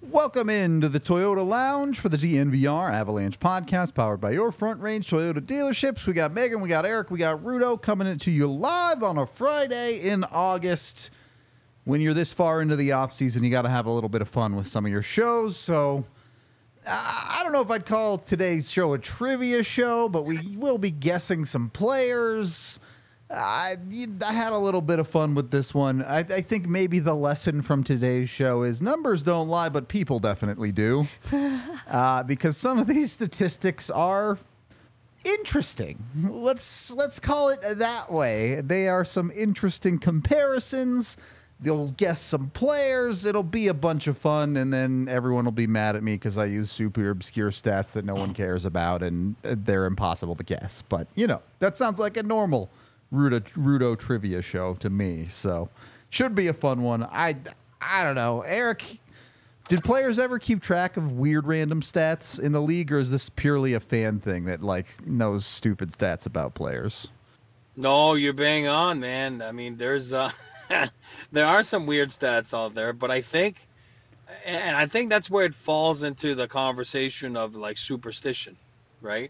Welcome into the Toyota Lounge for the DNVR Avalanche podcast powered by your Front Range Toyota dealerships. We got Megan, we got Eric, we got Rudo coming into you live on a Friday in August. When you're this far into the off season, you got to have a little bit of fun with some of your shows. So I don't know if I'd call today's show a trivia show, but we will be guessing some players. I had a little bit of fun with this one. I think maybe the lesson from today's show is numbers don't lie, but people definitely do. Because some of these statistics are interesting. Let's call it that way. They are some interesting comparisons. You'll guess some players. It'll be a bunch of fun, and then everyone will be mad at me because I use super obscure stats that no one cares about, and they're impossible to guess. But, you know, that sounds like a normal Rudo trivia show to me, so should be a fun one. I don't know. Eric, did players ever keep track of weird random stats in the league, or is this purely a fan thing that like knows stupid stats about players? No, you're bang on, man. I mean, there's there are some weird stats out there, but I think that's where it falls into the conversation of like superstition, right?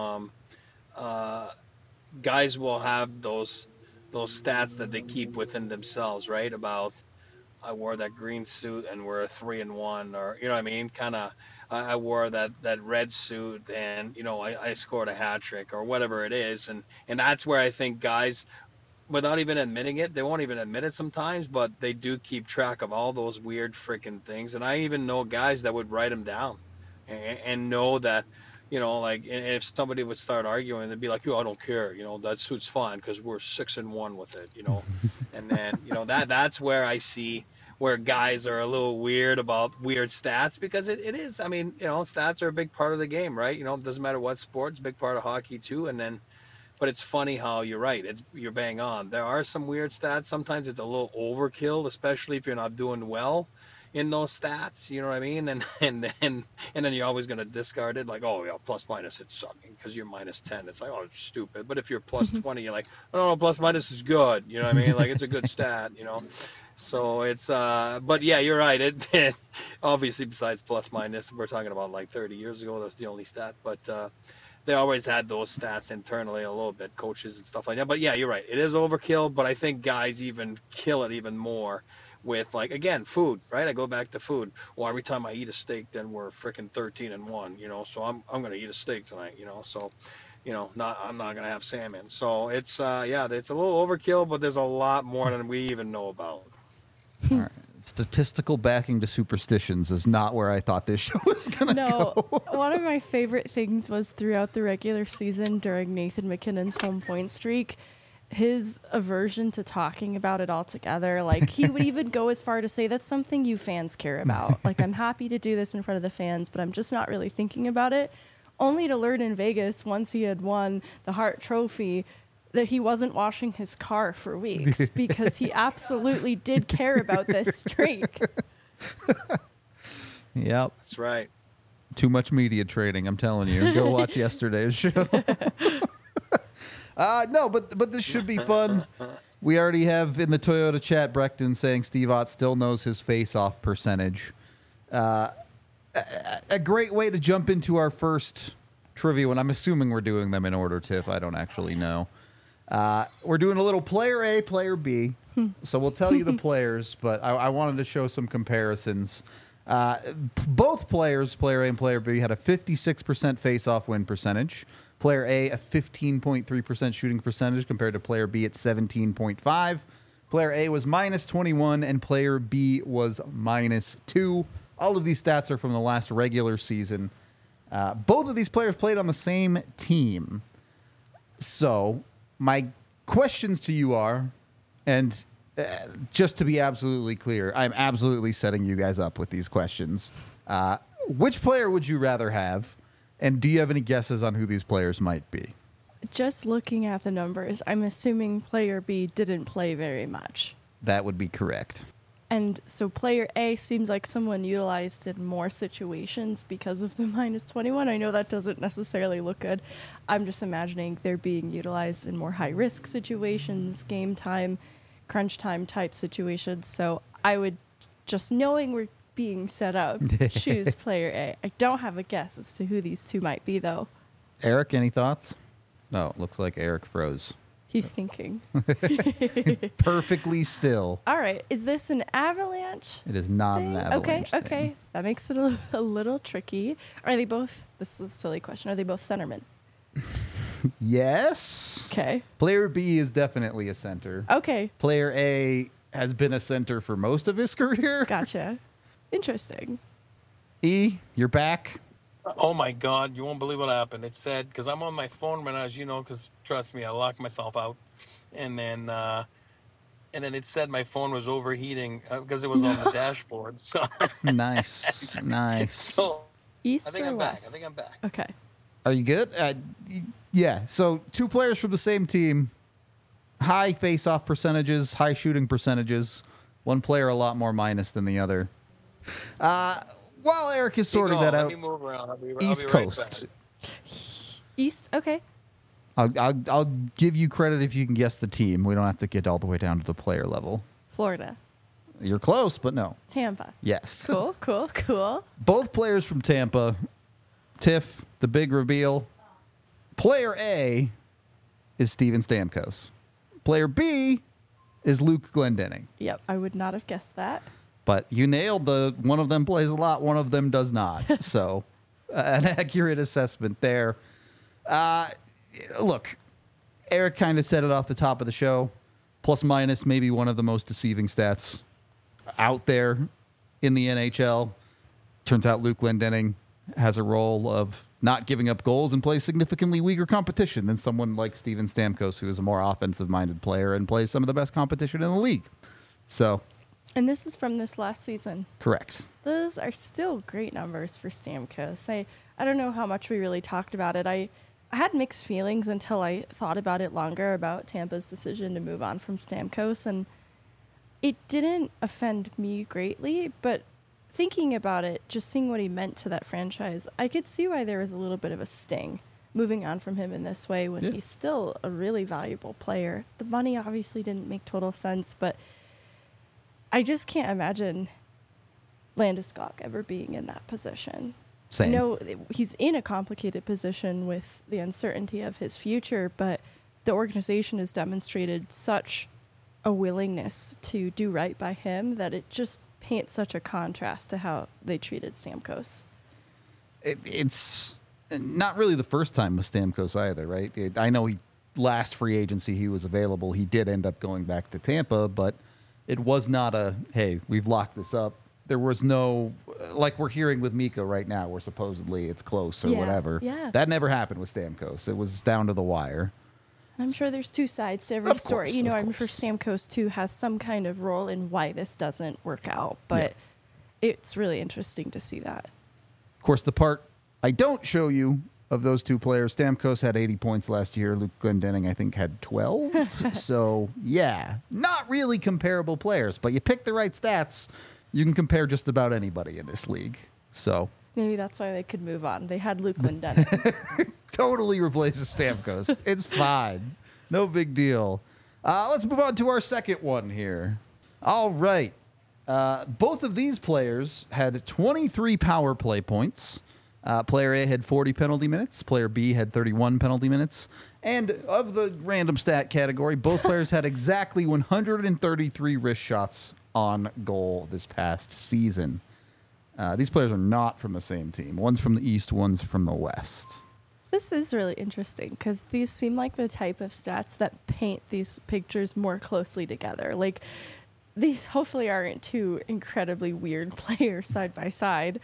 Guys will have those stats that they keep within themselves, right? About I wore that green suit and we're 3-1, or you know what I mean? Kind of I wore that red suit and you know I scored a hat trick or whatever it is, and that's where I think guys, without even admitting it, they won't even admit it sometimes, but they do keep track of all those weird freaking things. And I even know guys that would write them down and know that, you know, like if somebody would start arguing, they'd be like, "Yo, I don't care. You know, that suit's fine because we're 6-1 with it." You know, and then you know that's where I see where guys are a little weird about weird stats because it is. I mean, you know, stats are a big part of the game, right? You know, it doesn't matter what sport; it's a big part of hockey too. And then, but it's funny how you're right. You're bang on. There are some weird stats. Sometimes it's a little overkill, especially if you're not doing well in those stats, you know what I mean? And then you're always going to discard it, like, oh yeah, plus minus it's sucking because you're -10. It's like, oh, it's stupid. But if you're +20, you're like, oh no, plus minus is good. You know what I mean? Like it's a good stat, you know. So it's but yeah, you're right. It obviously besides plus minus, we're talking about like 30 years ago. That's the only stat, but they always had those stats internally a little bit, coaches and stuff like that. But yeah, you're right. It is overkill, but I think guys even kill it even more with like again food, right? I go back to food. Well, every time I eat a steak, then we're freaking 13-1, you know. So I'm gonna eat a steak tonight, you know. So, you know, I'm not gonna have salmon. So it's yeah, it's a little overkill, but there's a lot more than we even know about. All right. Statistical backing to superstitions is not where I thought this show was gonna go. One of my favorite things was throughout the regular season during Nathan MacKinnon's home point streak, his aversion to talking about it altogether. Like he would even go as far to say that's something you fans care about. Like I'm happy to do this in front of the fans, but I'm just not really thinking about it. Only to learn in Vegas once he had won the Hart Trophy that he wasn't washing his car for weeks because he absolutely did care about this streak. Yep. That's right. Too much media trading, I'm telling you. Go watch yesterday's show. No, but this should be fun. We already have in the Toyota chat Breckton saying Steve Ott still knows his face-off percentage. A great way to jump into our first trivia one. I'm assuming we're doing them in order, Tiff. I don't actually know. We're doing a little player A, player B. So we'll tell you the players, but I wanted to show some comparisons. Both players, player A and player B, had a 56% face-off win percentage. Player A, a 15.3% shooting percentage compared to player B at 17.5. Player A was -21 and player B was -2. All of these stats are from the last regular season. Both of these players played on the same team. So my questions to you are, and just to be absolutely clear, I'm absolutely setting you guys up with these questions. Which player would you rather have? And do you have any guesses on who these players might be? Just looking at the numbers, I'm assuming player B didn't play very much. That would be correct. And so player A seems like someone utilized in more situations because of the -21. I know that doesn't necessarily look good. I'm just imagining they're being utilized in more high-risk situations, game time, crunch time type situations. So I would, just knowing we're being set up, choose player A. I don't have a guess as to who these two might be, though. Eric, any thoughts? Oh, it looks like Eric froze. He's thinking. Perfectly still. All right. Is this an Avalanche? It is not thing? an Avalanche Okay. thing. That makes it a little tricky. Are they both, this is a silly question, are they both centermen? Yes. Okay. Player B is definitely a center. Okay. Player A has been a center for most of his career. Gotcha. Interesting. E, you're back. Oh my God, you won't believe what happened. It said, because I'm on my phone right now, as you know, because trust me, I locked myself out. And then it said my phone was overheating because it was on the dashboard. So, Nice. Nice. so East I think or I'm back. west? I think I'm back. Okay. Are you good? Yeah. So 2 players from the same team, high face-off percentages, high shooting percentages. One player a lot more minus than the other. While Eric is sorting that Let out, me move around. I'll be East right Coast. back. East? Okay. I'll give you credit if you can guess the team. We don't have to get all the way down to the player level. Florida. You're close, but no. Tampa. Yes. Cool. Both players from Tampa. Tiff, the big reveal. Player A is Steven Stamkos. Player B is Luke Glendening. Yep. I would not have guessed that. But you nailed one of them plays a lot, one of them does not. So an accurate assessment there. Look, Eric kind of said it off the top of the show. Plus minus maybe one of the most deceiving stats out there in the NHL. Turns out Luke Glendening has a role of not giving up goals and plays significantly weaker competition than someone like Steven Stamkos, who is a more offensive-minded player and plays some of the best competition in the league. So, And this is from this last season. correct. Those are still great numbers for Stamkos. I don't know how much we really talked about it. I had mixed feelings until I thought about it longer about Tampa's decision to move on from Stamkos, and it didn't offend me greatly, but thinking about it, just seeing what he meant to that franchise, I could see why there was a little bit of a sting moving on from him in this way when he's still a really valuable player. The money obviously didn't make total sense, but I just can't imagine Landeskog ever being in that position. Same. I know he's in a complicated position with the uncertainty of his future, but the organization has demonstrated such a willingness to do right by him that it just paints such a contrast to how they treated Stamkos. It's not really the first time with Stamkos either, right? I know last free agency he was available. He did end up going back to Tampa, but it was not hey, we've locked this up. There was no, like we're hearing with Mika right now, where supposedly it's close or whatever. Yeah. That never happened with Stamkos. It was down to the wire. I'm sure there's two sides to every Of story. course, of I'm sure course. Stamkos too has some kind of role in why this doesn't work out, but it's really interesting to see that. Of course, the part I don't show you of those 2 players, Stamkos had 80 points last year. Luke Glendening, I think, had 12. So, yeah, not really comparable players, but you pick the right stats, you can compare just about anybody in this league. So, Maybe that's why they could move on. They had Luke Glendening. totally replaces Stamkos. It's fine. No big deal. Let's move on to our second one here. All right. Both of these players had 23 power play points. Player A had 40 penalty minutes. Player B had 31 penalty minutes. And of the random stat category, both players had exactly 133 wrist shots on goal this past season. These players are not from the same team. One's from the East, one's from the West. This is really interesting because these seem like the type of stats that paint these pictures more closely together. Like, these hopefully aren't two incredibly weird players side by side.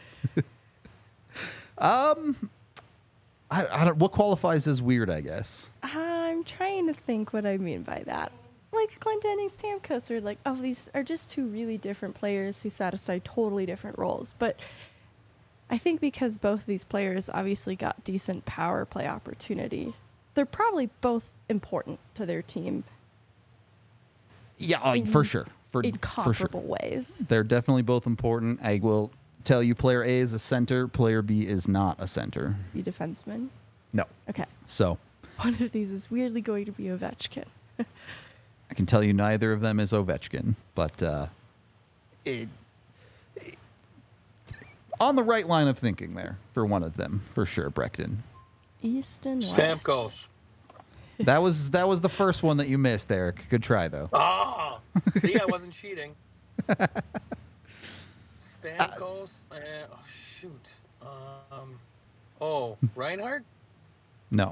I don't. What qualifies as weird? I guess. I'm trying to think what I mean by that. Like, Glendening, Stamkos are like, oh, these are just two really different players who satisfy totally different roles. But I think because both of these players obviously got decent power play opportunity, they're probably both important to their team Yeah, for sure. in For sure. comparable ways. They're definitely both important. I will tell you, player A is a center. Player B is not a center. Is he defenseman? No. Okay. So One of these is weirdly going to be Ovechkin. I can tell you neither of them is Ovechkin, but on the right line of thinking there for one of them, for sure, Brecton. East and West. Stamkos. That was the first one that you missed, Eric. Good try, though. Ah, see, I wasn't cheating. Stamkos. Oh shoot. Reinhardt. No.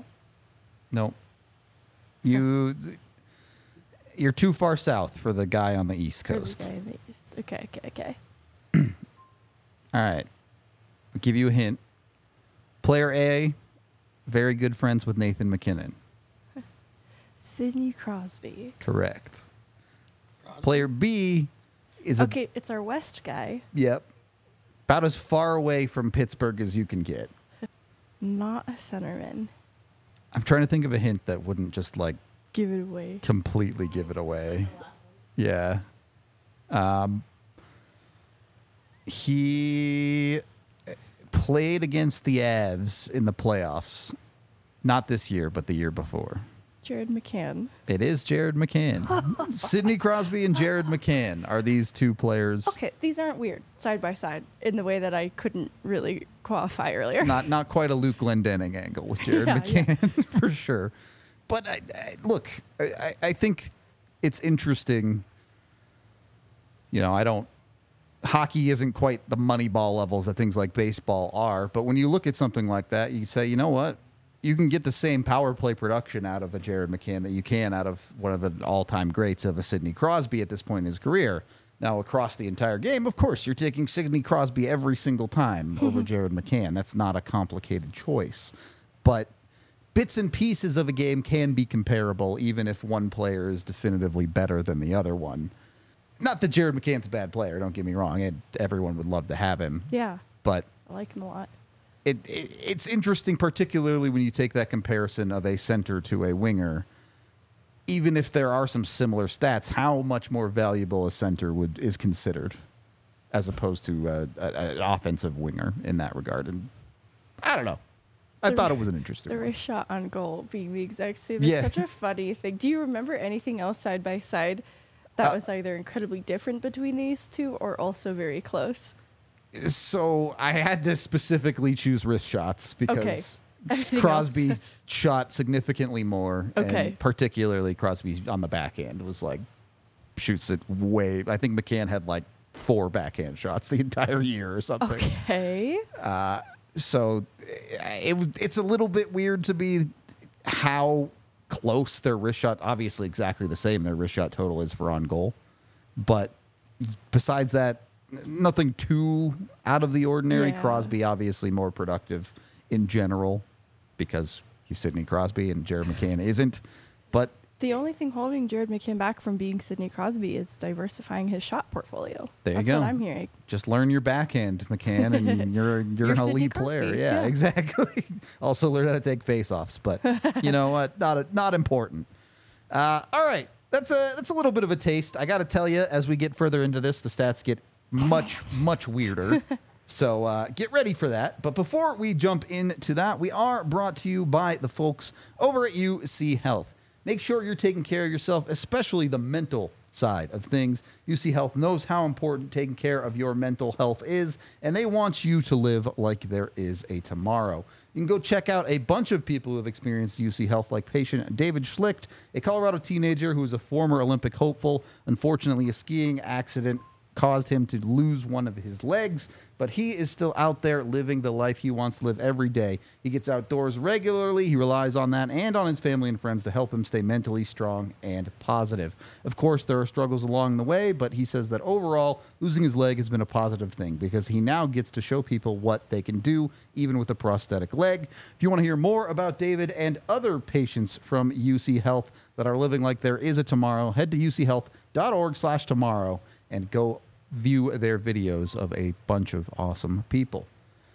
You're too far south for the guy on the East Coast. Okay. All right. I'll give you a hint. Player A, very good friends with Nathan McKinnon. Sidney Crosby. Correct. Player B is Okay, it's our West guy. Yep. About as far away from Pittsburgh as you can get. Not a centerman. I'm trying to think of a hint that wouldn't just like Give it away. completely give it away. Yeah. He played against the Avs in the playoffs. Not this year, but the year before. Jared McCann. It is Jared McCann. Sidney Crosby and Jared McCann are these two players. Okay, these aren't weird side by side in the way that I couldn't really qualify earlier. Not quite a Luke Glendening angle with Jared McCann, for sure. But look, I think it's interesting. You know, hockey isn't quite the Moneyball levels that things like baseball are. But when you look at something like that, you say, you know what? You can get the same power play production out of a Jared McCann that you can out of one of the all-time greats of a Sidney Crosby at this point in his career. Now, across the entire game, of course, you're taking Sidney Crosby every single time over Jared McCann. That's not a complicated choice. But bits and pieces of a game can be comparable, even if one player is definitively better than the other one. Not that Jared McCann's a bad player, don't get me wrong. Everyone would love to have him. Yeah. But I like him a lot. It's interesting, particularly when you take that comparison of a center to a winger. Even if there are some similar stats, how much more valuable a center is considered as opposed to an offensive winger in that regard. And I don't know. I thought it was an interesting The one. wrist shot on goal being the exact same is such a funny thing. Do you remember anything else side by side that was either incredibly different between these two or also very close? So I had to specifically choose wrist shots because Crosby shot significantly more. Okay. And particularly Crosby on the backhand was like, shoots it way. I think McCann had like 4 backhand shots the entire year or something. Okay. So it's a little bit weird to be how close their wrist shot, obviously exactly the same their wrist shot total is for on goal. But besides that, nothing too out of the ordinary. Yeah. Crosby obviously more productive in general because he's Sidney Crosby and Jared McCann isn't. But The only thing holding Jared McCann back from being Sidney Crosby is diversifying his shot portfolio. There you That's go. what I'm hearing. just learn your backhand, McCann, and you're an Sidney elite Crosby, player. Yeah, yeah. exactly. Also learn how to take face-offs, but you know what? Not important. All right, that's a little bit of a taste. I got to tell you, as we get further into this, the stats get much weirder. So get ready for that. But before we jump into that, we are brought to you by the folks over at UC Health. Make sure you're taking care of yourself, especially the mental side of things. UC Health knows how important taking care of your mental health is, and they want you to live like there is a tomorrow. You can go check out a bunch of people who have experienced UC Health, like patient David Schlicht, a Colorado teenager who is a former Olympic hopeful. Unfortunately, a skiing accident caused him to lose one of his legs, but he is still out there living the life he wants to live every day. He gets outdoors regularly. He relies on that and on his family and friends to help him stay mentally strong and positive. Of course, there are struggles along the way, but he says that overall, losing his leg has been a positive thing because he now gets to show people what they can do, even with a prosthetic leg. If you want to hear more about David and other patients from UC Health that are living like there is a tomorrow, head to uchealth.org/tomorrow and go view their videos of a bunch of awesome people.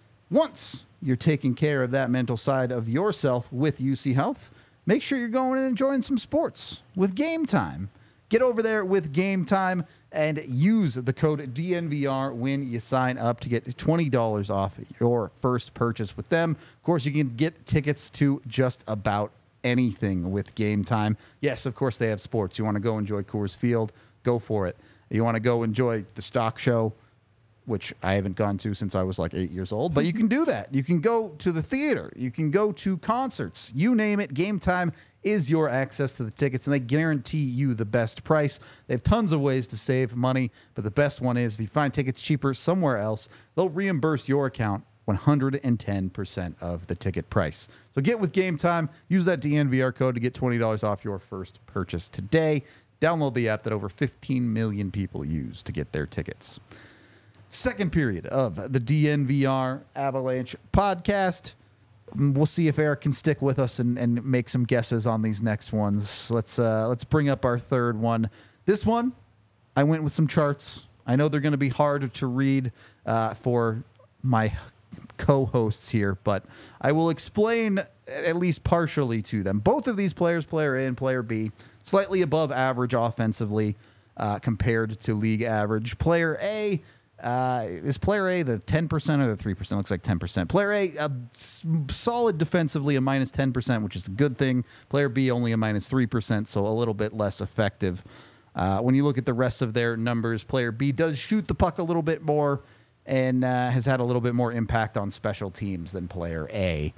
Once you're taking care of that mental side of yourself with UC Health, make sure you're going and enjoying some sports with Game Time. Get over there with Game Time and use the code DNVR when you sign up to get $20 off your first purchase with them. Of course, you can get tickets to just about anything with Game Time. Yes, of course, they have sports. You want to go enjoy Coors Field, go for it. You want to go enjoy the stock show, which I haven't gone to since I was like 8 years old, but you can do that. You can go to the theater. You can go to concerts. You name it. Game Time is your access to the tickets, and they guarantee you the best price. They have tons of ways to save money, but the best one is if you find tickets cheaper somewhere else, they'll reimburse your account 110% of the ticket price. So get with Game Time. Use that DNVR code to get $20 off your first purchase today. Download the app that over 15 million people use to get their tickets. Second period of the DNVR Avalanche podcast. We'll see if Eric can stick with us and make some guesses on these next ones. Let's bring up our third one. This one, I went with some charts. I know they're going to be hard to read for my co-hosts here, but I will explain at least partially to them. Both of these players, player A and player B, slightly above average offensively compared to league average. Player A, is player A the 10% or the 3%? Looks like 10%. Player A, solid defensively, a minus 10%, which is a good thing. Player B, only a minus 3%, so a little bit less effective. When you look at the rest of their numbers, player B does shoot the puck a little bit more and has had a little bit more impact on special teams than player A.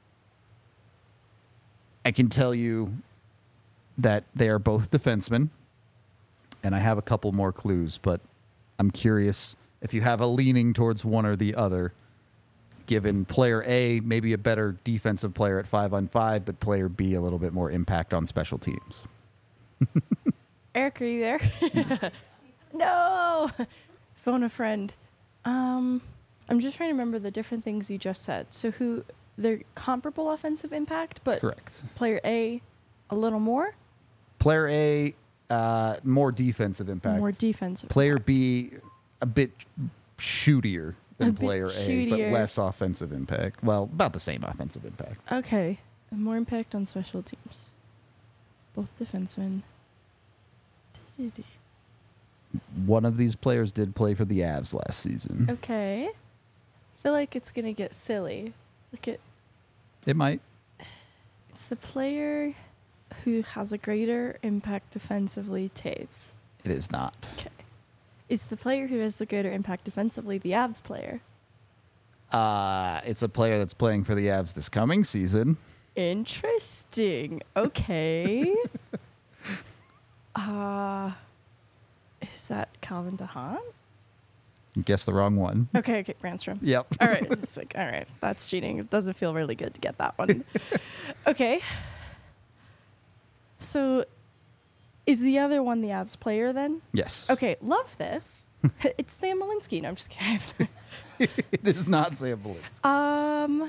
I can tell you that they are both defensemen, and I have a couple more clues, but I'm curious if you have a leaning towards one or the other, given player A maybe a better defensive player at 5-on-5, but player B a little bit more impact on special teams. Eric, are you there? No! Phone a friend. I'm just trying to remember the different things you just said. So they're comparable offensive impact, but Correct. Player A a little more? Player A, more defensive impact. More defensive. Player impact. B, a bit shootier than A bit player A, but shootier. less offensive impact. Well, about the same offensive impact. Okay. More impact on special teams. Both defensemen. One of these players did play for the Avs last season. Okay. I feel like it's going to get silly. Look at It might. it's the player who has a greater impact defensively, Taves. It is not. Okay. Is the player who has the greater impact defensively the Avs player? It's a player that's playing for the Avs this coming season. Interesting. Okay. Is that Calvin DeHaan? Guess the wrong one. Okay, Brandstrom. Yep. All right. It's like, all right, that's cheating. It doesn't feel really good to get that one. Okay. So is the other one the Avs player then? Yes. Okay, love this. It's Sam Malinsky. No, I'm just kidding. It is not Sam Belinsky.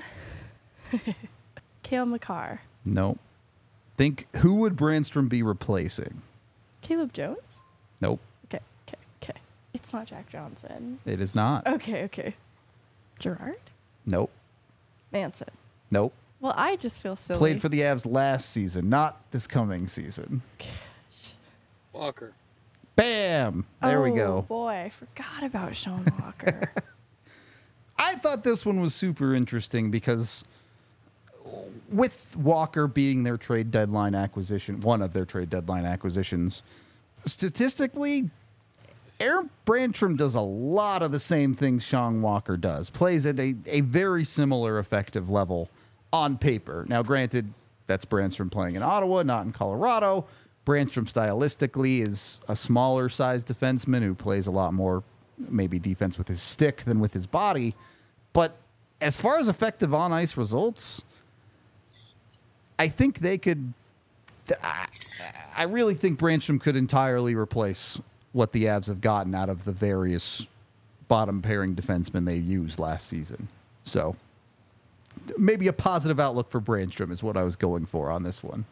Cale Makar. Nope. Think, who would Brandstrom be replacing? Caleb Jones? Nope. Okay. It's not Jack Johnson. It is not. Okay. Gerard? Nope. Manson. Nope. Well, I just feel silly. Played for the Avs last season, not this coming season. Walker. Bam! There we Oh, go. boy, I forgot about Sean Walker. I thought this one was super interesting because with Walker being their trade deadline acquisition, one of their trade deadline acquisitions, statistically, Aaron Brandstrom does a lot of the same things Sean Walker does. Plays at a very similar effective level on paper. Now, granted, that's Brandstrom playing in Ottawa, not in Colorado. Brandstrom stylistically is a smaller sized defenseman who plays a lot more maybe defense with his stick than with his body. But as far as effective on ice results, I think they could. I really think Brandstrom could entirely replace what the Avs have gotten out of the various bottom pairing defensemen they used last season. So maybe a positive outlook for Brandstrom is what I was going for on this one.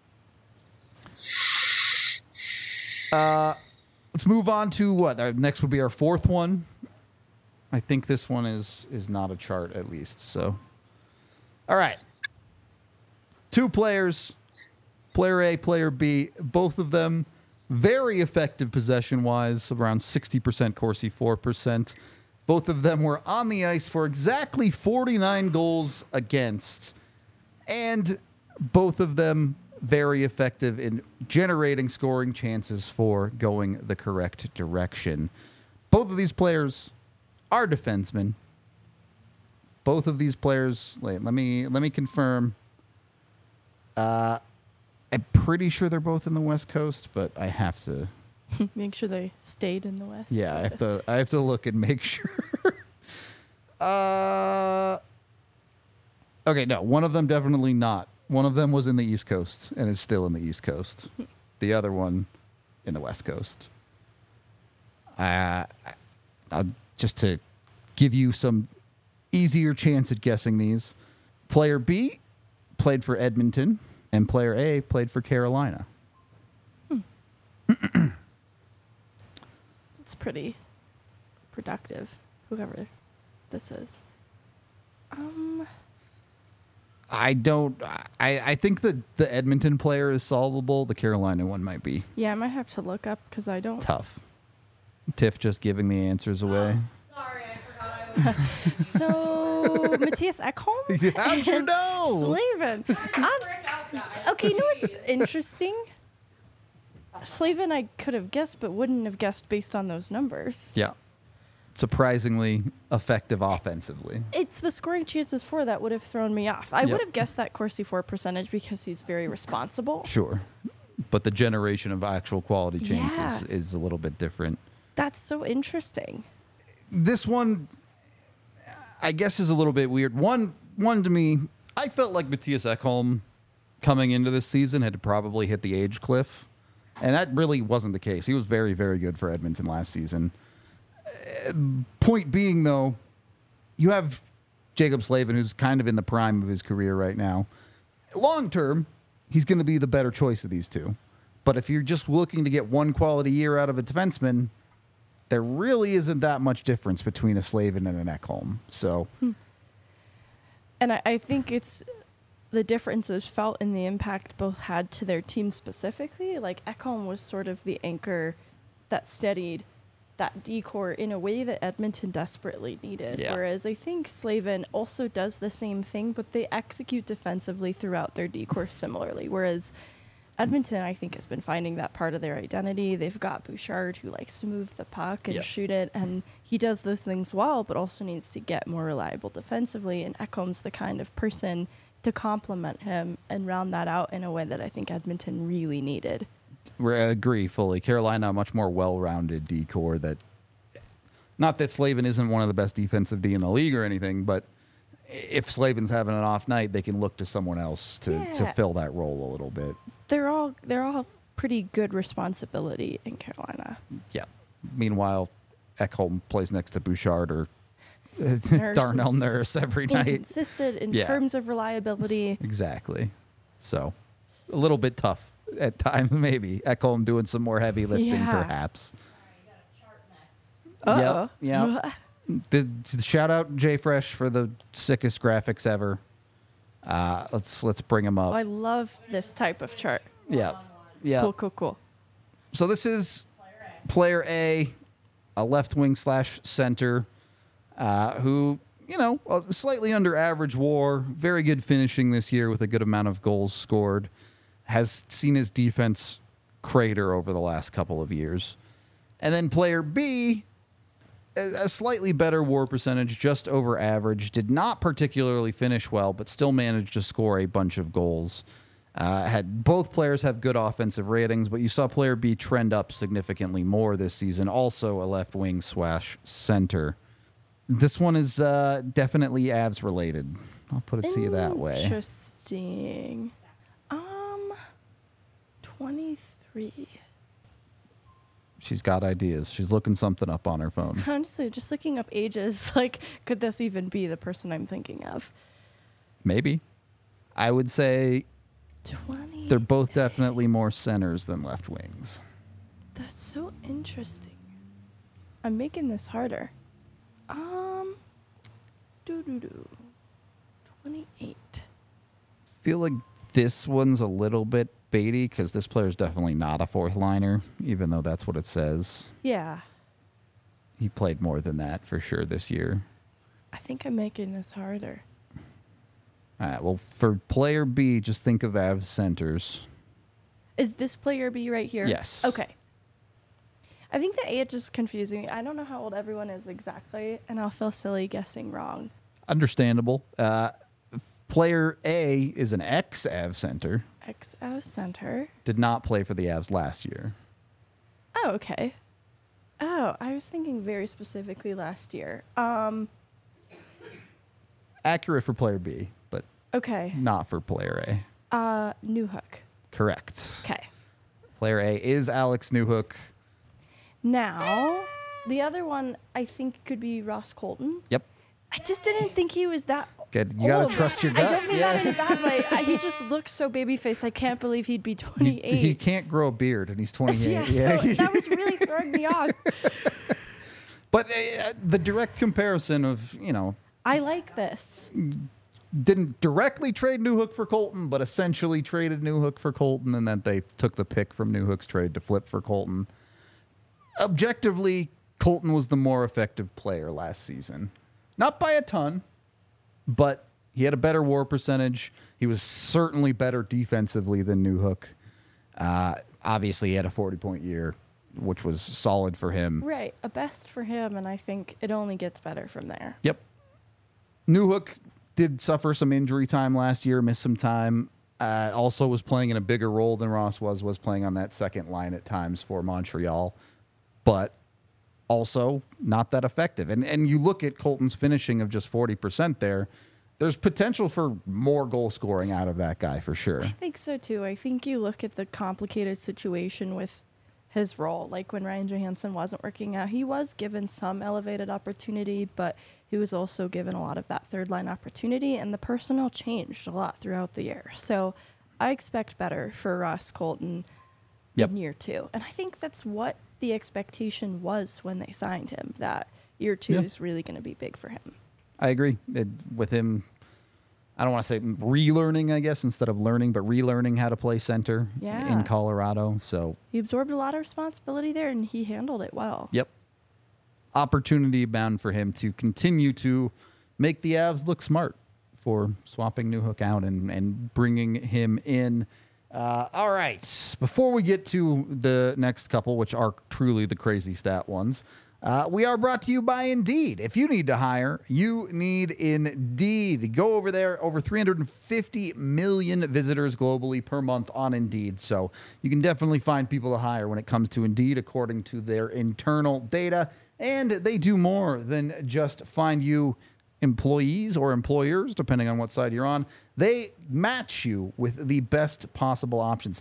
Let's move on to what? Next would be our fourth one. I think this one is not a chart, at least. So, all right. Two players, player A, player B, both of them very effective possession-wise, around 60% Corsi, 4%. Both of them were on the ice for exactly 49 goals against. And both of them very effective in generating scoring chances for going the correct direction. Both of these players Our defensemen. Both of these players. Wait, let me confirm. I'm pretty sure they're both in the West Coast, but I have to. Make sure they stayed in the West. Yeah, I have to look and make sure. Okay, no, one of them definitely not. One of them was in the East Coast and is still in the East Coast. The other one in the West Coast. Just to give you some easier chance at guessing these. Player B played for Edmonton, and player A played for Carolina. It's pretty productive, whoever this is. I think that the Edmonton player is solvable. The Carolina one might be Yeah, I might have to look up because I don't. tough. Tiff just giving the answers away. Sorry, I forgot I was. So, Matthias Ekholm? How'd you know? Slavin. Okay, you know what's interesting? Slavin I could have guessed, but wouldn't have guessed based on those numbers. Yeah. Surprisingly effective offensively. It's the scoring chances for that would have thrown me off. I Yep. would have guessed that Corsi for percentage because he's very responsible. Sure. But the generation of actual quality chances Yeah. is a little bit different. That's so interesting. This one, I guess, is a little bit weird. One to me, I felt like Matthias Ekholm coming into this season had probably hit the age cliff. And that really wasn't the case. He was very, very good for Edmonton last season. Point being, though, you have Jacob Slavin, who's kind of in the prime of his career right now. Long term, he's going to be the better choice of these two. But if you're just looking to get one quality year out of a defenseman, there really isn't that much difference between a Slavin and an Ekholm. So, And I think it's the differences felt in the impact both had to their team specifically. Like Ekholm was sort of the anchor that steadied that decor in a way that Edmonton desperately needed. Yeah. Whereas I think Slavin also does the same thing, but they execute defensively throughout their decor similarly. Whereas Edmonton, I think, has been finding that part of their identity. They've got Bouchard, who likes to move the puck and Yeah. shoot it, and he does those things well, but also needs to get more reliable defensively. And Ekholm's the kind of person to complement him and round that out in a way that I think Edmonton really needed. I agree fully. Carolina, a much more well-rounded decor that, not that Slavin isn't one of the best defensive D in the league or anything, but if Slavin's having an off night, they can look to someone else to Yeah. fill that role a little bit. They're all pretty good responsibility in Carolina. Yeah. Meanwhile, Ekholm plays next to Bouchard or Darnell is Nurse every night. Inconsistent in Yeah. terms of reliability. Exactly. So, a little bit tough at times, maybe. Ekholm doing some more heavy lifting, Yeah. perhaps. You got a chart next. Uh-oh. Yeah. The shout out Jay Fresh for the sickest graphics ever. Let's bring him Oh, I up. love this type of chart. Yeah. Yeah. Cool. So this is player A, a left wing / center, who, slightly under average WAR, very good finishing this year with a good amount of goals scored, has seen his defense crater over the last couple of years. And then player B, a slightly better WAR percentage, just over average, did not particularly finish well, but still managed to score a bunch of goals. Had both players have good offensive ratings, but you saw player B trend up significantly more this season. Also a left wing / center. This one is definitely Avs related. I'll put it to you that way. Interesting. 23. She's got ideas. She's looking something up on her phone. Honestly, just looking up ages, like, could this even be the person I'm thinking of? Maybe. I would say 20. they're both definitely more centers than left wings. That's so interesting. I'm making this harder. 28. Feel like this one's a little bit baity because this player's definitely not a fourth liner, even though that's what it says. Yeah. He played more than that for sure this year. I think I'm making this harder. All right, well, for player B, just think of Avs centers. Is this player B right here? Yes. Okay. I think the age is confusing me. I don't know how old everyone is exactly, and I'll feel silly guessing wrong. Understandable. Player A is an ex-Av center. XO Center. Did not play for the Avs last year. Oh, okay. Oh, I was thinking very specifically last year. Accurate for player B, but Okay. not for player A. Newhook. Correct. Okay. Player A is Alex Newhook. Now, the other one I think could be Ross Colton. Yep. I just didn't think he was that. Good. You got to old. trust your I gut. don't mean that in a bad way. He just looks so baby-faced. I can't believe he'd be 28. He can't grow a beard, and he's 28. Yeah, so that was really throwing me off. But the direct comparison of, I like this. didn't directly trade Newhook for Colton, but essentially traded Newhook for Colton, and then they took the pick from Newhook's trade to flip for Colton. Objectively, Colton was the more effective player last season. Not by a ton, but he had a better WAR percentage. He was certainly better defensively than Newhook. Obviously, he had a 40-point year, which was solid for him. Right, a best for him, and I think it only gets better from there. Yep. Newhook did suffer some injury time last year, missed some time. Also was playing in a bigger role than Ross was playing on that second line at times for Montreal, but also not that effective. And you look at Colton's finishing of just 40% there, there's potential for more goal scoring out of that guy for sure. I think so too. I think you look at the complicated situation with his role. Like when Ryan Johansson wasn't working out, he was given some elevated opportunity, but he was also given a lot of that third line opportunity, and the personnel changed a lot throughout the year. So I expect better for Ross Colton in year 2. And I think that's what the expectation was when they signed him, that year 2 is really going to be big for him. I agree. With him, I don't want to say relearning, I guess, instead of learning, but relearning how to play center in Colorado. So he absorbed a lot of responsibility there, and he handled it well. Yep. Opportunity bound for him to continue to make the Avs look smart for swapping Newhook out and bringing him in. All right. Before we get to the next couple, which are truly the crazy stat ones, we are brought to you by Indeed. If you need to hire, you need Indeed. Go over there. Over 350 million visitors globally per month on Indeed. So you can definitely find people to hire when it comes to Indeed, according to their internal data. And they do more than just find you employees or employers, depending on what side you're on. They match you with the best possible options.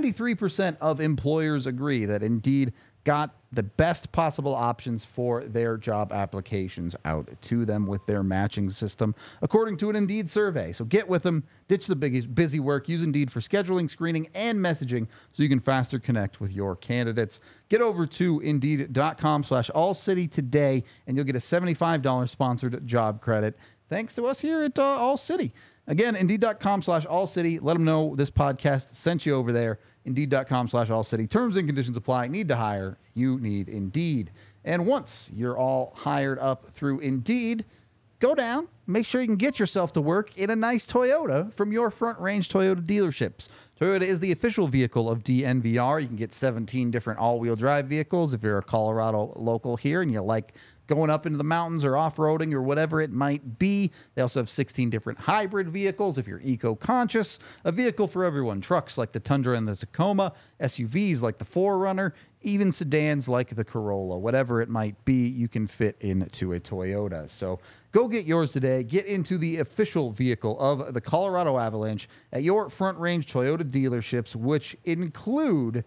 93% of employers agree that Indeed got the best possible options for their job applications out to them with their matching system, according to an Indeed survey. So get with them, ditch the busy work, use Indeed for scheduling, screening, and messaging so you can faster connect with your candidates. Get over to Indeed.com/AllCity today, and you'll get a $75 sponsored job credit thanks to us here at All City. Again, Indeed.com/AllCity. Let them know this podcast sent you over there. Indeed.com/AllCity. Terms and conditions apply. Need to hire. You need Indeed. And once you're all hired up through Indeed, go down. Make sure you can get yourself to work in a nice Toyota from your Front Range Toyota dealerships. Toyota is the official vehicle of DNVR. You can get 17 different all-wheel drive vehicles if you're a Colorado local here and you like going up into the mountains or off-roading or whatever it might be. They also have 16 different hybrid vehicles if you're eco-conscious. A vehicle for everyone. Trucks like the Tundra and the Tacoma, SUVs like the 4Runner, even sedans like the Corolla. Whatever it might be, you can fit into a Toyota. So go get yours today. Get into the official vehicle of the Colorado Avalanche at your Front Range Toyota dealerships, which include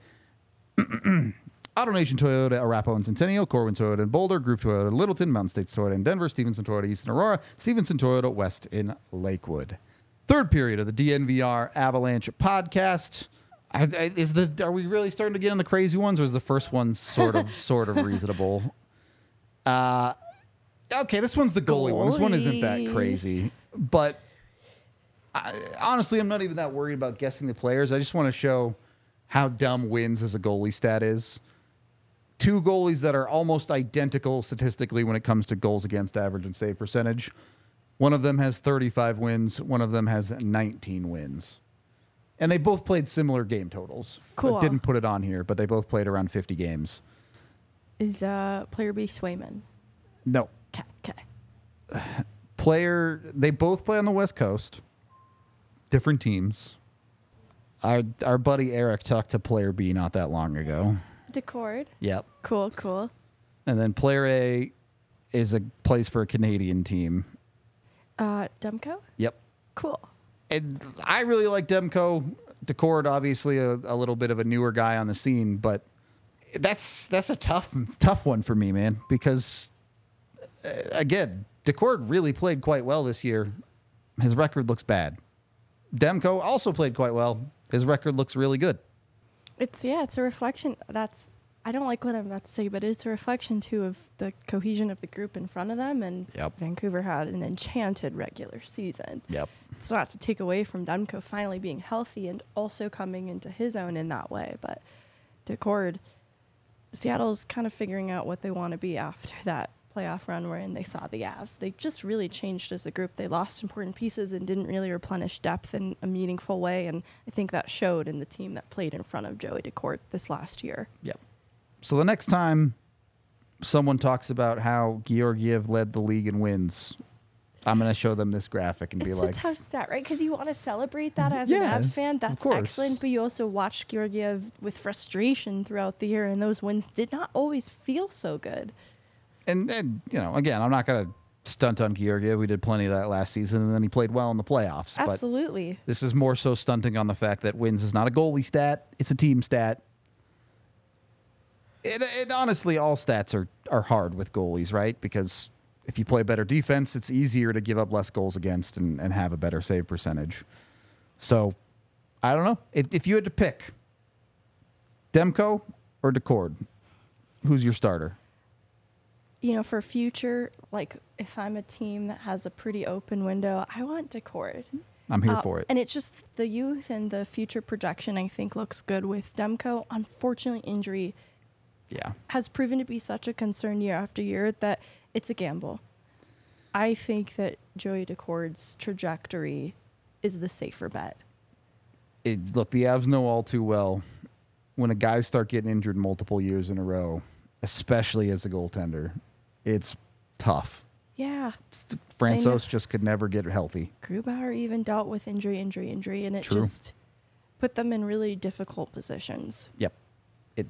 AutoNation Toyota, Arapahoe and Centennial, Corwin Toyota in Boulder, Groove Toyota in Littleton, Mountain States Toyota in Denver, Stevenson Toyota East in Aurora, Stevenson Toyota West in Lakewood. Third period of the DNVR Avalanche podcast. Are we really starting to get on the crazy ones, or is the first one sort of reasonable? Okay, this one's the goalie one. This one isn't that crazy, but honestly, I'm not even that worried about guessing the players. I just want to show how dumb wins as a goalie stat is. Two goalies that are almost identical statistically when it comes to goals against average and save percentage. One of them has 35 wins. One of them has 19 wins. And they both played similar game totals. Cool. I didn't put it on here, but they both played around 50 games. Is player B Swayman? No. Okay. They both play on the West Coast. Different teams. Our buddy Eric talked to player B not that long ago. Decord. Yep. Cool. And then player A plays for a Canadian team. Demko? Yep. Cool. And I really like Demko. Decord, obviously a little bit of a newer guy on the scene, but that's a tough one for me, man, because again, Decord really played quite well this year. His record looks bad. Demko also played quite well. His record looks really good. It's a reflection. I don't like what I'm about to say, but it's a reflection too of the cohesion of the group in front of them. And Yep. Vancouver had an enchanted regular season. Yep. It's not to take away from Demko finally being healthy and also coming into his own in that way, but Decord, Seattle's kind of figuring out what they want to be after that playoff run wherein they saw the Avs. They just really changed as a group. They lost important pieces and didn't really replenish depth in a meaningful way, and I think that showed in the team that played in front of Joey Decord this last year. Yep. So the next time someone talks about how Georgiev led the league in wins, I'm going to show them this graphic and be It's like, a tough stat, right? Because you want to celebrate that as Yeah, an Avs fan. of That's course. excellent. But you also watch Georgiev with frustration throughout the year, and those wins did not always feel so good. and again, I'm not going to stunt on Georgiev. We did plenty of that last season, and then he played well in the playoffs. But Absolutely. this is more so stunting on the fact that wins is not a goalie stat; it's a team stat. It honestly, all stats are hard with goalies, right? Because if you play better defense, it's easier to give up less goals against and have a better save percentage. So, I don't know. If you had to pick Demko or Decord, who's your starter? For future, like if I'm a team that has a pretty open window, I want Decord. I'm here for it. And it's just the youth and the future projection I think looks good with Demko. Unfortunately, injury Yeah. has proven to be such a concern year after year that it's a gamble. I think that Joey Decord's trajectory is the safer bet. Look, the Avs know all too well when a guys start getting injured multiple years in a row, especially as a goaltender, it's tough. Yeah. Francouz just could never get healthy. Grubauer even dealt with injury, and it True. just put them in really difficult positions. Yep. It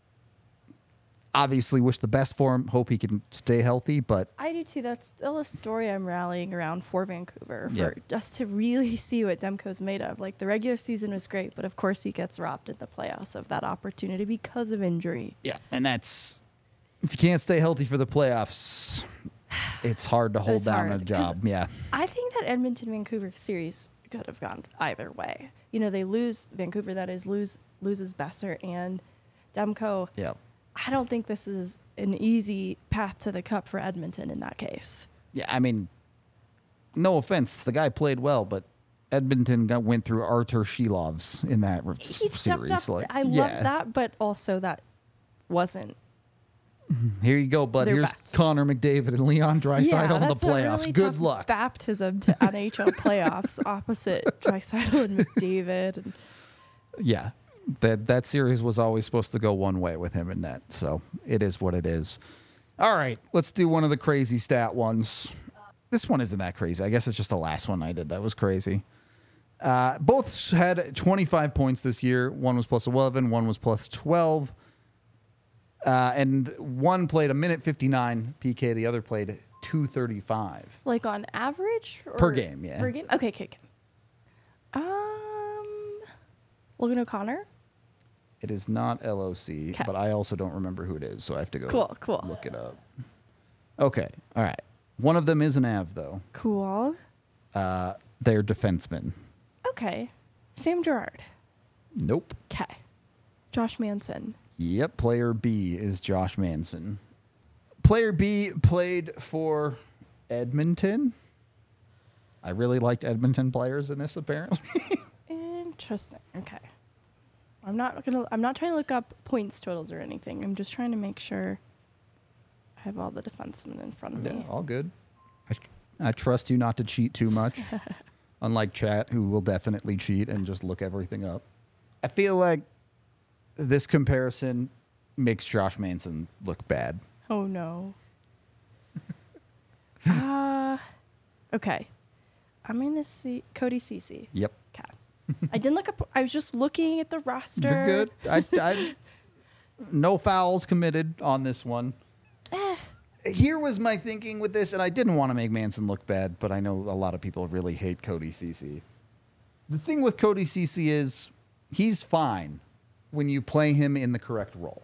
obviously wish the best for him. Hope he can stay healthy, but I do too. That's still a story I'm rallying around for Vancouver, for Yep. just to really see what Demko's made of. Like the regular season was great, but of course he gets robbed in the playoffs of that opportunity because of injury. yeah, and that's if you can't stay healthy for the playoffs, it's hard to hold It's down a hard, 'cause job. Yeah. I think that Edmonton Vancouver series could have gone either way. They lose Vancouver, that is, loses Besser and Demko. Yeah. I don't think this is an easy path to the cup for Edmonton in that case. Yeah, I mean, no offense, the guy played well, but Edmonton went through Artur Shilovs in that He stepped series. up. I love that, but also that wasn't. Here you go, bud. Their Here's best. Connor McDavid and Leon Draisaitl in the that's a playoffs. really Good tough luck. Baptism to NHL playoffs opposite Draisaitl and McDavid. And Yeah, that series was always supposed to go one way with him in net, so it is what it is. All right, let's do one of the crazy stat ones. This one isn't that crazy. I guess it's just the last one I did that was crazy. Both had 25 points this year. One was plus 11, one was plus 12. And one played a minute 59 PK, the other played 235. like on average? Or Per game, yeah. Per game? Okay. Logan O'Connor? It is not LOC, 'Kay. but I also don't remember who it is, so I have to go Cool. look it up. Okay, all right. One of them is an Av, though. Cool. They're defensemen. Okay. Sam Gerard. Nope. Okay. Josh Manson. Yep, player B is Josh Manson. Player B played for Edmonton. I really liked Edmonton players in this, apparently. Interesting. Okay. I'm not trying to look up points totals or anything. I'm just trying to make sure I have all the defensemen in front of Yeah, me. all good. I trust you not to cheat too much. Unlike chat, who will definitely cheat and just look everything up. I feel like this comparison makes Josh Manson look bad. Oh no. Okay. I'm gonna see Cody Cece. Yep. Okay. I didn't look up. I was just looking at the roster. You're good. I no fouls committed on this one. Here was my thinking with this, and I didn't want to make Manson look bad, but I know a lot of people really hate Cody Cece. The thing with Cody Cece is he's fine when you play him in the correct role.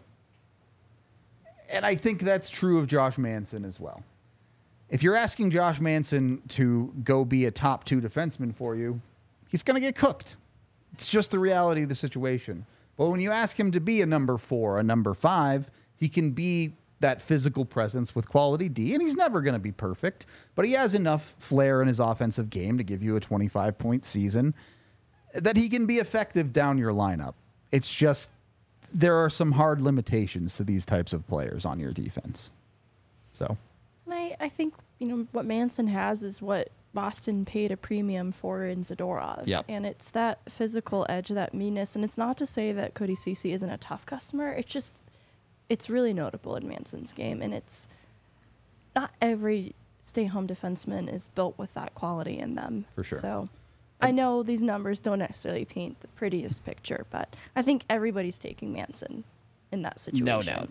And I think that's true of Josh Manson as well. If you're asking Josh Manson to go be a top 2 defenseman for you, he's going to get cooked. It's just the reality of the situation. But when you ask him to be a number 4, a number 5, he can be that physical presence with quality D, and he's never going to be perfect, but he has enough flair in his offensive game to give you a 25-point season that he can be effective down your lineup. It's just there are some hard limitations to these types of players on your defense. So, And I think, what Manson has is what Boston paid a premium for in Zadorov. Yep. And it's that physical edge, that meanness. And it's not to say that Cody Cece isn't a tough customer. It's just, it's really notable in Manson's game. And it's not every stay-home defenseman is built with that quality in them. For sure. So I know these numbers don't necessarily paint the prettiest picture, but I think everybody's taking Manson in that situation. no doubt.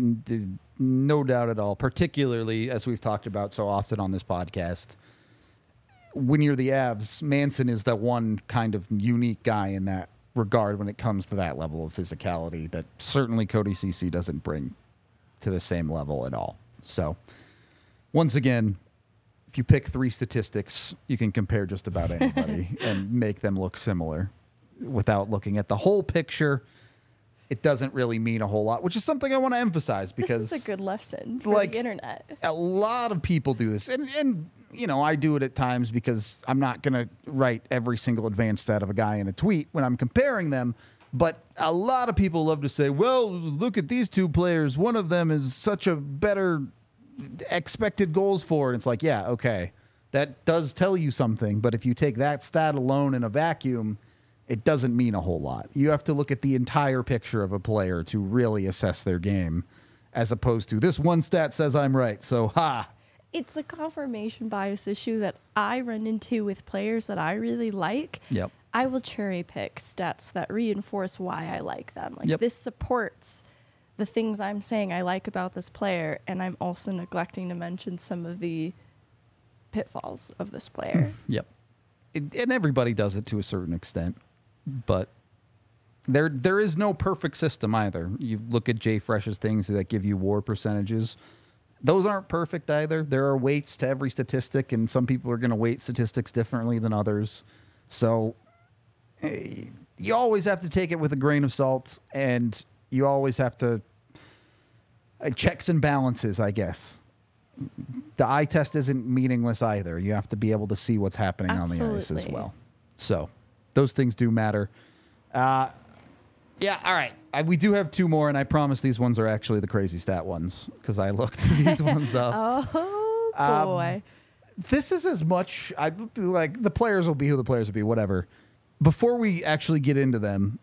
No doubt at all, particularly as we've talked about so often on this podcast. When you're the Avs, Manson is the one kind of unique guy in that regard when it comes to that level of physicality that certainly Cody Cece doesn't bring to the same level at all. So, once again, if you pick 3 statistics, you can compare just about anybody and make them look similar without looking at the whole picture. It doesn't really mean a whole lot, which is something I want to emphasize because this is a good lesson for the internet. A lot of people do this. And I do it at times because I'm not going to write every single advanced stat of a guy in a tweet when I'm comparing them. But a lot of people love to say, well, look at these 2 players. One of them is such a better expected goals for. And it's like, yeah, okay. That does tell you something. But if you take that stat alone in a vacuum, it doesn't mean a whole lot. You have to look at the entire picture of a player to really assess their game, as opposed to this one stat says I'm right. So, It's a confirmation bias issue that I run into with players that I really like. Yep. I will cherry pick stats that reinforce why I like them. Like Yep. this supports the things I'm saying I like about this player, and I'm also neglecting to mention some of the pitfalls of this player. Yep. And everybody does it to a certain extent. But there is no perfect system either. You look at Jay Fresh's things that give you WAR percentages. Those aren't perfect either. There are weights to every statistic, and some people are going to weight statistics differently than others. So you always have to take it with a grain of salt, and you always have to checks and balances, I guess. The eye test isn't meaningless either. You have to be able to see what's happening on the ice as Absolutely. well. So those things do matter. Yeah, all right. We do have 2 more, and I promise these ones are actually the crazy stat ones because I looked these ones up. Oh, boy. This is as much like the players will be who the players will be, whatever. Before we actually get into them,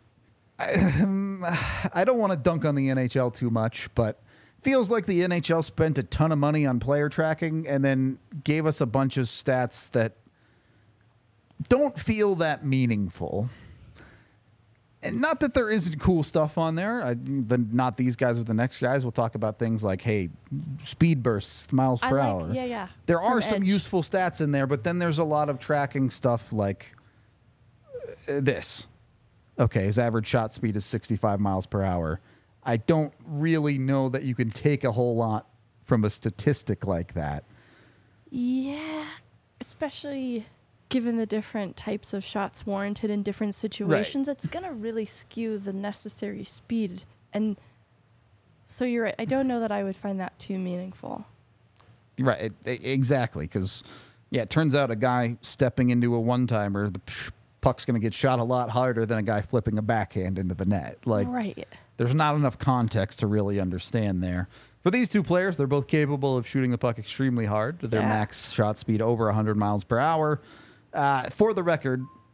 I don't want to dunk on the NHL too much, but feels like the NHL spent a ton of money on player tracking and then gave us a bunch of stats that don't feel that meaningful. And not that there isn't cool stuff on there. Not these guys, but the next guys. We'll talk about things like, hey, speed bursts, miles per hour. Yeah. There are From some Edge. useful stats in there, but then there's a lot of tracking stuff like this. Okay, his average shot speed is 65 miles per hour. I don't really know that you can take a whole lot from a statistic like that. Yeah, especially given the different types of shots warranted in different situations, it's going to really skew the necessary speed. And so you're right. I don't know that I would find that too meaningful. Right, exactly, because, yeah, it turns out a guy stepping into a one-timer, the puck's going to get shot a lot harder than a guy flipping a backhand into the net. Like, Right. There's not enough context to really understand there. For these 2 players, they're both capable of shooting the puck extremely hard. Their Yeah. max shot speed over 100 miles per hour. For the record,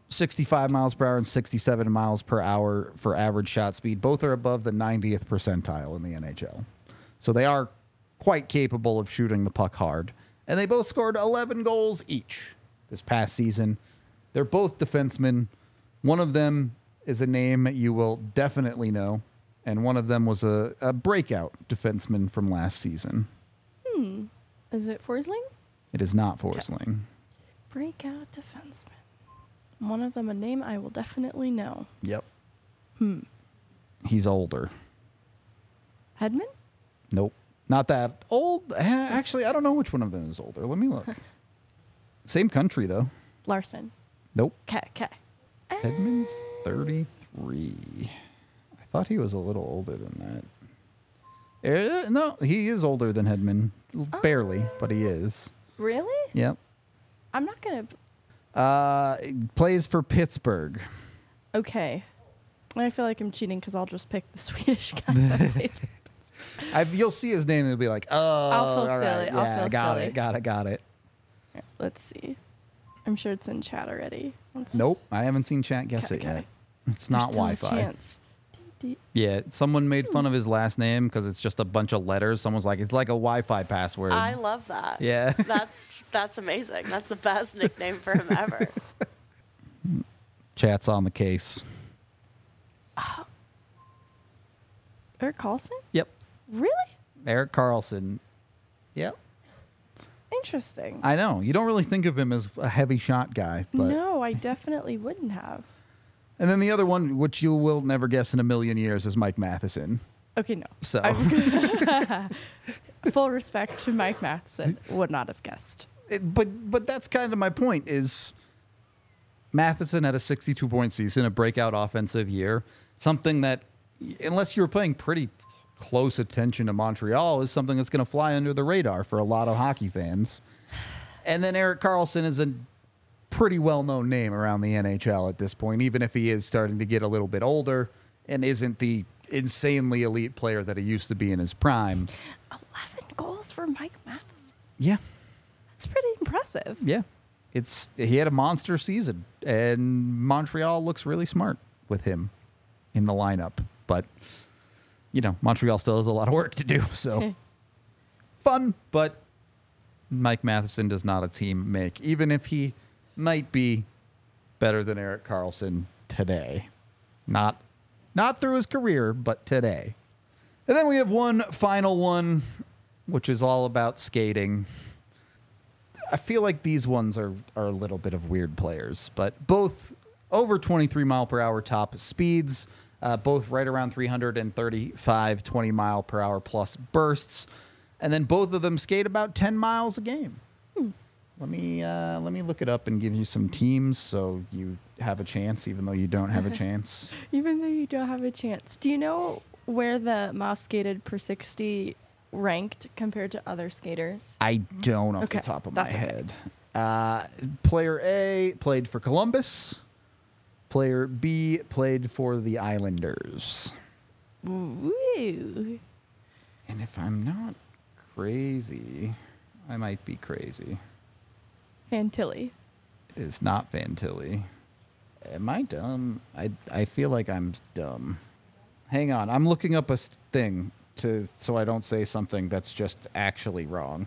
65 miles per hour and 67 miles per hour for average shot speed. Both are above the 90th percentile in the NHL. So they are quite capable of shooting the puck hard. And they both scored 11 goals each this past season. They're both defensemen. One of them is a name you will definitely know, and one of them was a breakout defenseman from last season. Is it Forsling? It is not Forsling. Breakout defenseman. One of them a name I will definitely know. Yep. He's older. Hedman? Nope. Not that old. Actually, I don't know which one of them is older. Let me look. Same country, though. Larson. Nope. Okay. Hedman's 33. I thought he was a little older than that. No, he is older than Hedman. Barely, but he is. Really? Yep. I'm not going to... Plays for Pittsburgh. Okay. I feel like I'm cheating because I'll just pick the Swedish guy that plays for... You'll see his name and you'll be like, oh, I'll feel all silly. right. I'll Yeah, feel got silly. it. Here, let's see. I'm sure it's in chat already. Nope, I haven't seen chat guess Okay, it yet. okay. It's not There's still a Wi-Fi. chance. Yeah, someone made fun of his last name because it's just a bunch of letters. Someone's like, it's like a Wi-Fi password. I love that. Yeah. That's amazing. That's the best nickname for him ever. Chat's on the case. Eric Carlson? Yep. Really? Eric Carlson. Yep. Interesting. I know. You don't really think of him as a heavy shot guy, but No, I definitely wouldn't have. And then the other one, which you will never guess in a million years, is Mike Matheson. Okay, no. So Full respect to Mike Matheson. Would not have guessed. but that's kind of my point is Matheson had a 62-point season, a breakout offensive year, something that, unless you were paying pretty close attention to Montreal, is something that's going to fly under the radar for a lot of hockey fans. And then Eric Carlson is a pretty well-known name around the NHL at this point, even if he is starting to get a little bit older and isn't the insanely elite player that he used to be in his prime. 11 goals for Mike Matheson. Yeah. That's pretty impressive. Yeah. He had a monster season, and Montreal looks really smart with him in the lineup. But, Montreal still has a lot of work to do, so fun, but Mike Matheson does not a team make, even if he might be better than Eric Carlson today. Not through his career, but today. And then we have one final one, which is all about skating. I feel like these ones are a little bit of weird players, but both over 23 mile per hour top speeds, both right around 335 20 mile per hour plus bursts, and then both of them skate about 10 miles a game. Let me look it up and give you some teams so you have a chance, even though you don't have a chance. Even though you don't have a chance. Do you know where the miles skated per 60 ranked compared to other skaters? I don't off the Okay, top of my that's okay. head. Player A played for Columbus. Player B played for the Islanders. Woo. And if I'm not crazy, I might be crazy. Fantilli. It is not Fantilli. Am I dumb? I feel like I'm dumb. Hang on, I'm looking up a thing so I don't say something that's just actually wrong.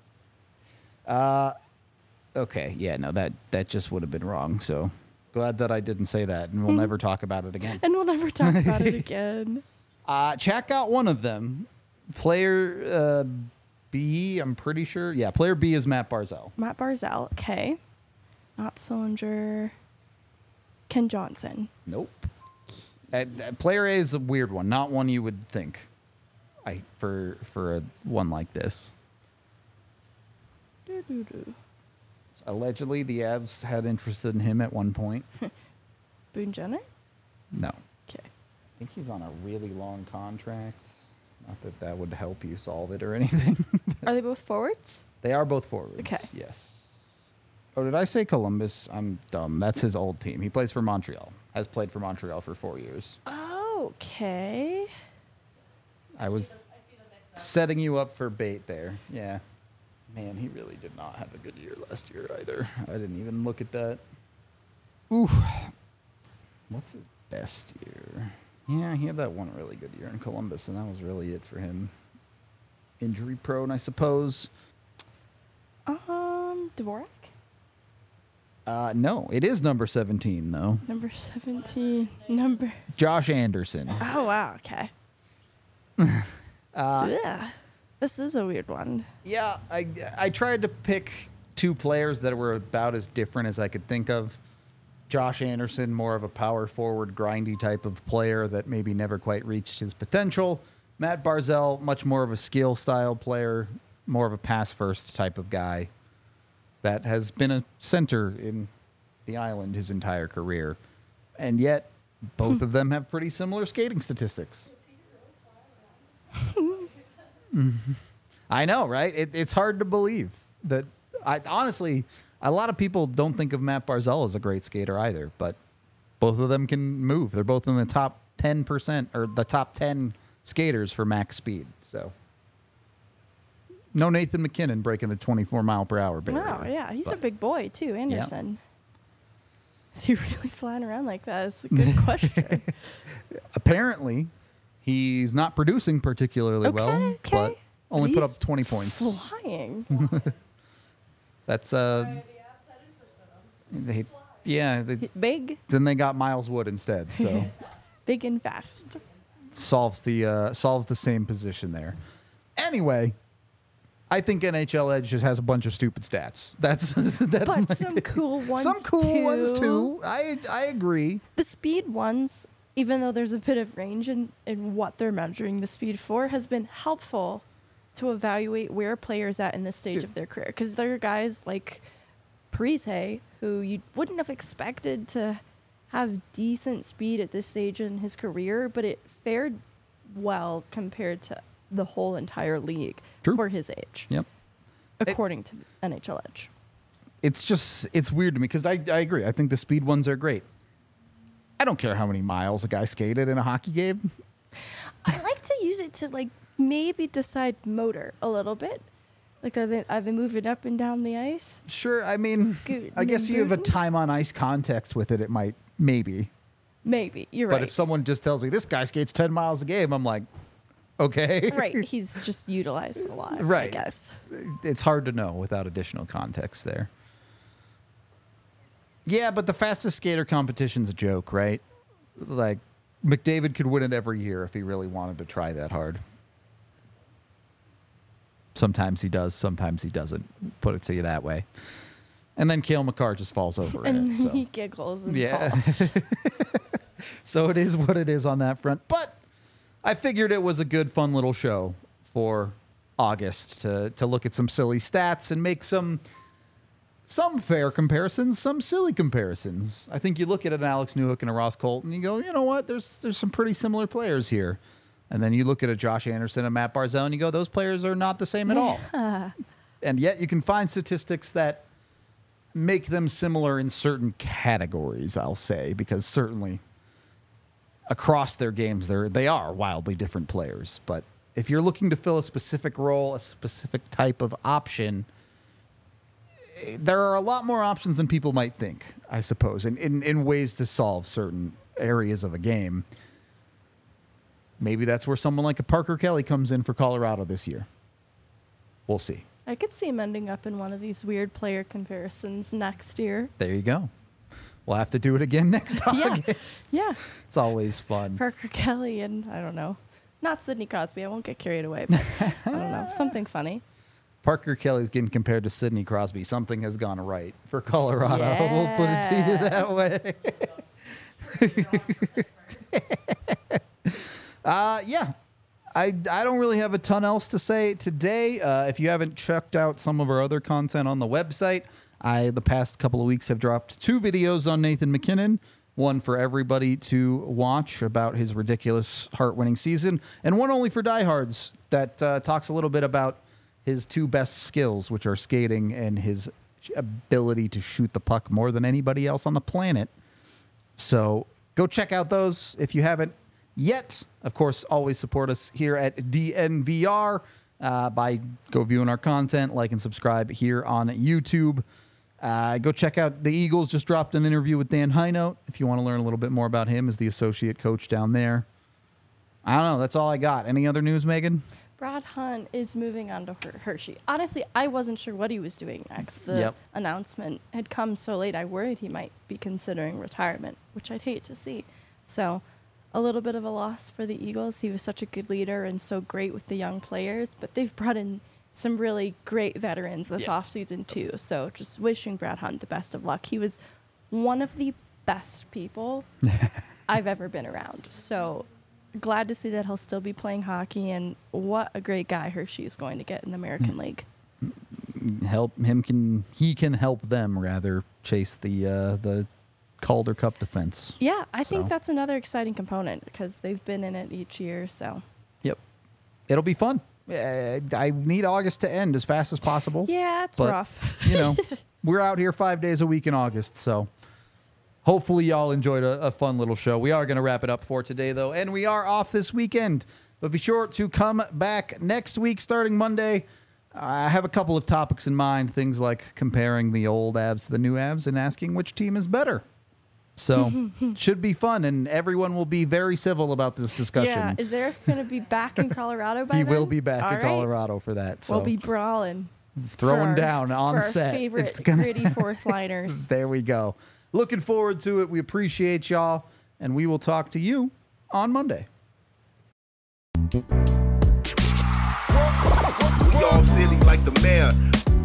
Okay, yeah, no, that just would have been wrong. So glad that I didn't say that, and we'll never talk about it again. And we'll never talk about it again. Chat got one of them. Player B, I'm pretty sure. Yeah, player B is Matt Barzell. Matt Barzell. Okay. Not Sillinger. Ken Johnson. Nope. Player A is a weird one, not one you would think. For a one like this. Allegedly, the Avs had interest in him at one point. Boone Jenner? No. Okay. I think he's on a really long contract. Not that would help you solve it or anything. Are they both forwards? They are both forwards. Okay. Yes. Oh, did I say Columbus? I'm dumb. That's his old team. He plays for Montreal. Has played for Montreal for 4 years. Okay. I was setting you up for bait there. Yeah. Man, he really did not have a good year last year either. I didn't even look at that. Ooh. What's his best year? Yeah, he had that one really good year in Columbus, and that was really it for him. Injury prone, I suppose. Dvorak? No, it is number 17, though. Number 17. Josh Anderson. Oh, wow. Okay. Yeah. This is a weird one. Yeah, I tried to pick two players that were about as different as I could think of. Josh Anderson, more of a power forward, grindy type of player that maybe never quite reached his potential. Matt Barzal, much more of a skill style player, more of a pass first type of guy that has been a center in the island his entire career. And yet, both of them have pretty similar skating statistics. I know, right? It's hard to believe that. Honestly, a lot of people don't think of Matt Barzal as a great skater either, but both of them can move. They're both in the top 10% or the top 10 skaters for max speed. So, no Nathan McKinnon breaking the 24-mile-per-hour barrier. Wow, yeah. He's a but- big boy, too, Anderson. Is he really flying around like that? That's a good question. Apparently, he's not producing particularly well, Okay. but only put He's up 20 points. Flying. That's The abs headed for some. Big, then they got Miles Wood instead, so big and fast. solves the same position there. Anyway, I think NHL Edge just has a bunch of stupid stats. That's But my some take. cool ones Some cool ones too. too. I agree. The speed ones, even though there's a bit of range in what they're measuring the speed for, has been helpful to evaluate where a player's at in this stage of their career. Because there are guys like Parise who you wouldn't have expected to have decent speed at this stage in his career, but it fared well compared to the whole entire league True. for his age, Yep. according to NHL Edge. It's weird to me because I agree. I think the speed ones are great. I don't care how many miles a guy skated in a hockey game. I like to use it to like maybe decide motor a little bit. Like are they moving up and down the ice? Sure, I mean, Scootin' I guess and you have a bootin'. time on ice context with it. It might maybe, Maybe you're but right. if someone just tells me this guy skates 10 miles a game, I'm like, okay, Right, he's just utilized a lot. I Right. guess. It's hard to know without additional context there. Yeah, but the fastest skater competition's a joke, right? Like, McDavid could win it every year if he really wanted to try that hard. Sometimes he does, sometimes he doesn't. Put it to you that way. And then Cale Makar just falls over in And it. then So. he giggles and Yeah. falls. So it is what it is on that front. But I figured it was a good, fun little show for August to look at some silly stats and make some fair comparisons, some silly comparisons. I think you look at an Alex Newhook and a Ross Colton, you go, you know what? There's some pretty similar players here. And then you look at a Josh Anderson and Matt Barzal, and you go, those players are not the same at all. And yet you can find statistics that make them similar in certain categories, I'll say, because certainly across their games, they are wildly different players. But if you're looking to fill a specific role, a specific type of option, there are a lot more options than people might think, I suppose, in ways to solve certain areas of a game. Maybe that's where someone like a Parker Kelly comes in for Colorado this year. We'll see. I could see him ending up in one of these weird player comparisons next year. There you go. We'll have to do it again next Yeah. August. Yeah. It's always fun. Parker Kelly and I don't know. Not Sidney Crosby. I won't get carried away, but I don't know. Something funny. Parker Kelly's getting compared to Sidney Crosby. Something has gone right for Colorado. We'll put it to you that way. Yeah. I don't really have a ton else to say today. If you haven't checked out some of our other content on the website, the past couple of weeks have dropped 2 videos on Nathan McKinnon. One for everybody to watch about his ridiculous heart-winning season, and one only for diehards that talks a little bit about his 2 best skills, which are skating and his ability to shoot the puck more than anybody else on the planet. So go check out those if you haven't yet. Of course, always support us here at DNVR by go viewing our content, like and subscribe here on YouTube. Go check out the Eagles. Just dropped an interview with Dan Heinout if you want to learn a little bit more about him as the associate coach down there. I don't know. That's all I got. Any other news, Megan? Brad Hunt is moving on to Hershey. Honestly, I wasn't sure what he was doing next. The announcement had come so late, I worried he might be considering retirement, which I'd hate to see. So a little bit of a loss for the Eagles. He was such a good leader and so great with the young players, but they've brought in some really great veterans this offseason too. So just wishing Brad Hunt the best of luck. He was one of the best people I've ever been around. So glad to see that he'll still be playing hockey, and what a great guy Hershey is going to get in the American League. He can help them rather chase the Calder Cup defense. Yeah, I think that's another exciting component because they've been in it each year. So yep, it'll be fun. I need August to end as fast as possible. Yeah, it's rough. We're out here 5 days a week in August, so hopefully y'all enjoyed a fun little show. We are going to wrap it up for today, though, and we are off this weekend. But be sure to come back next week starting Monday. I have a couple of topics in mind, things like comparing the old Avs to the new Avs and asking which team is better. So should be fun, and everyone will be very civil about this discussion. Yeah, is Eric going to be back in Colorado by then? He will be back in Colorado for that. So we'll be brawling. Throwing down on for set. Our favorite gritty fourth liners. There we go. Looking forward to it. We appreciate y'all, and we will talk to you on Monday. We all silly like the mayor.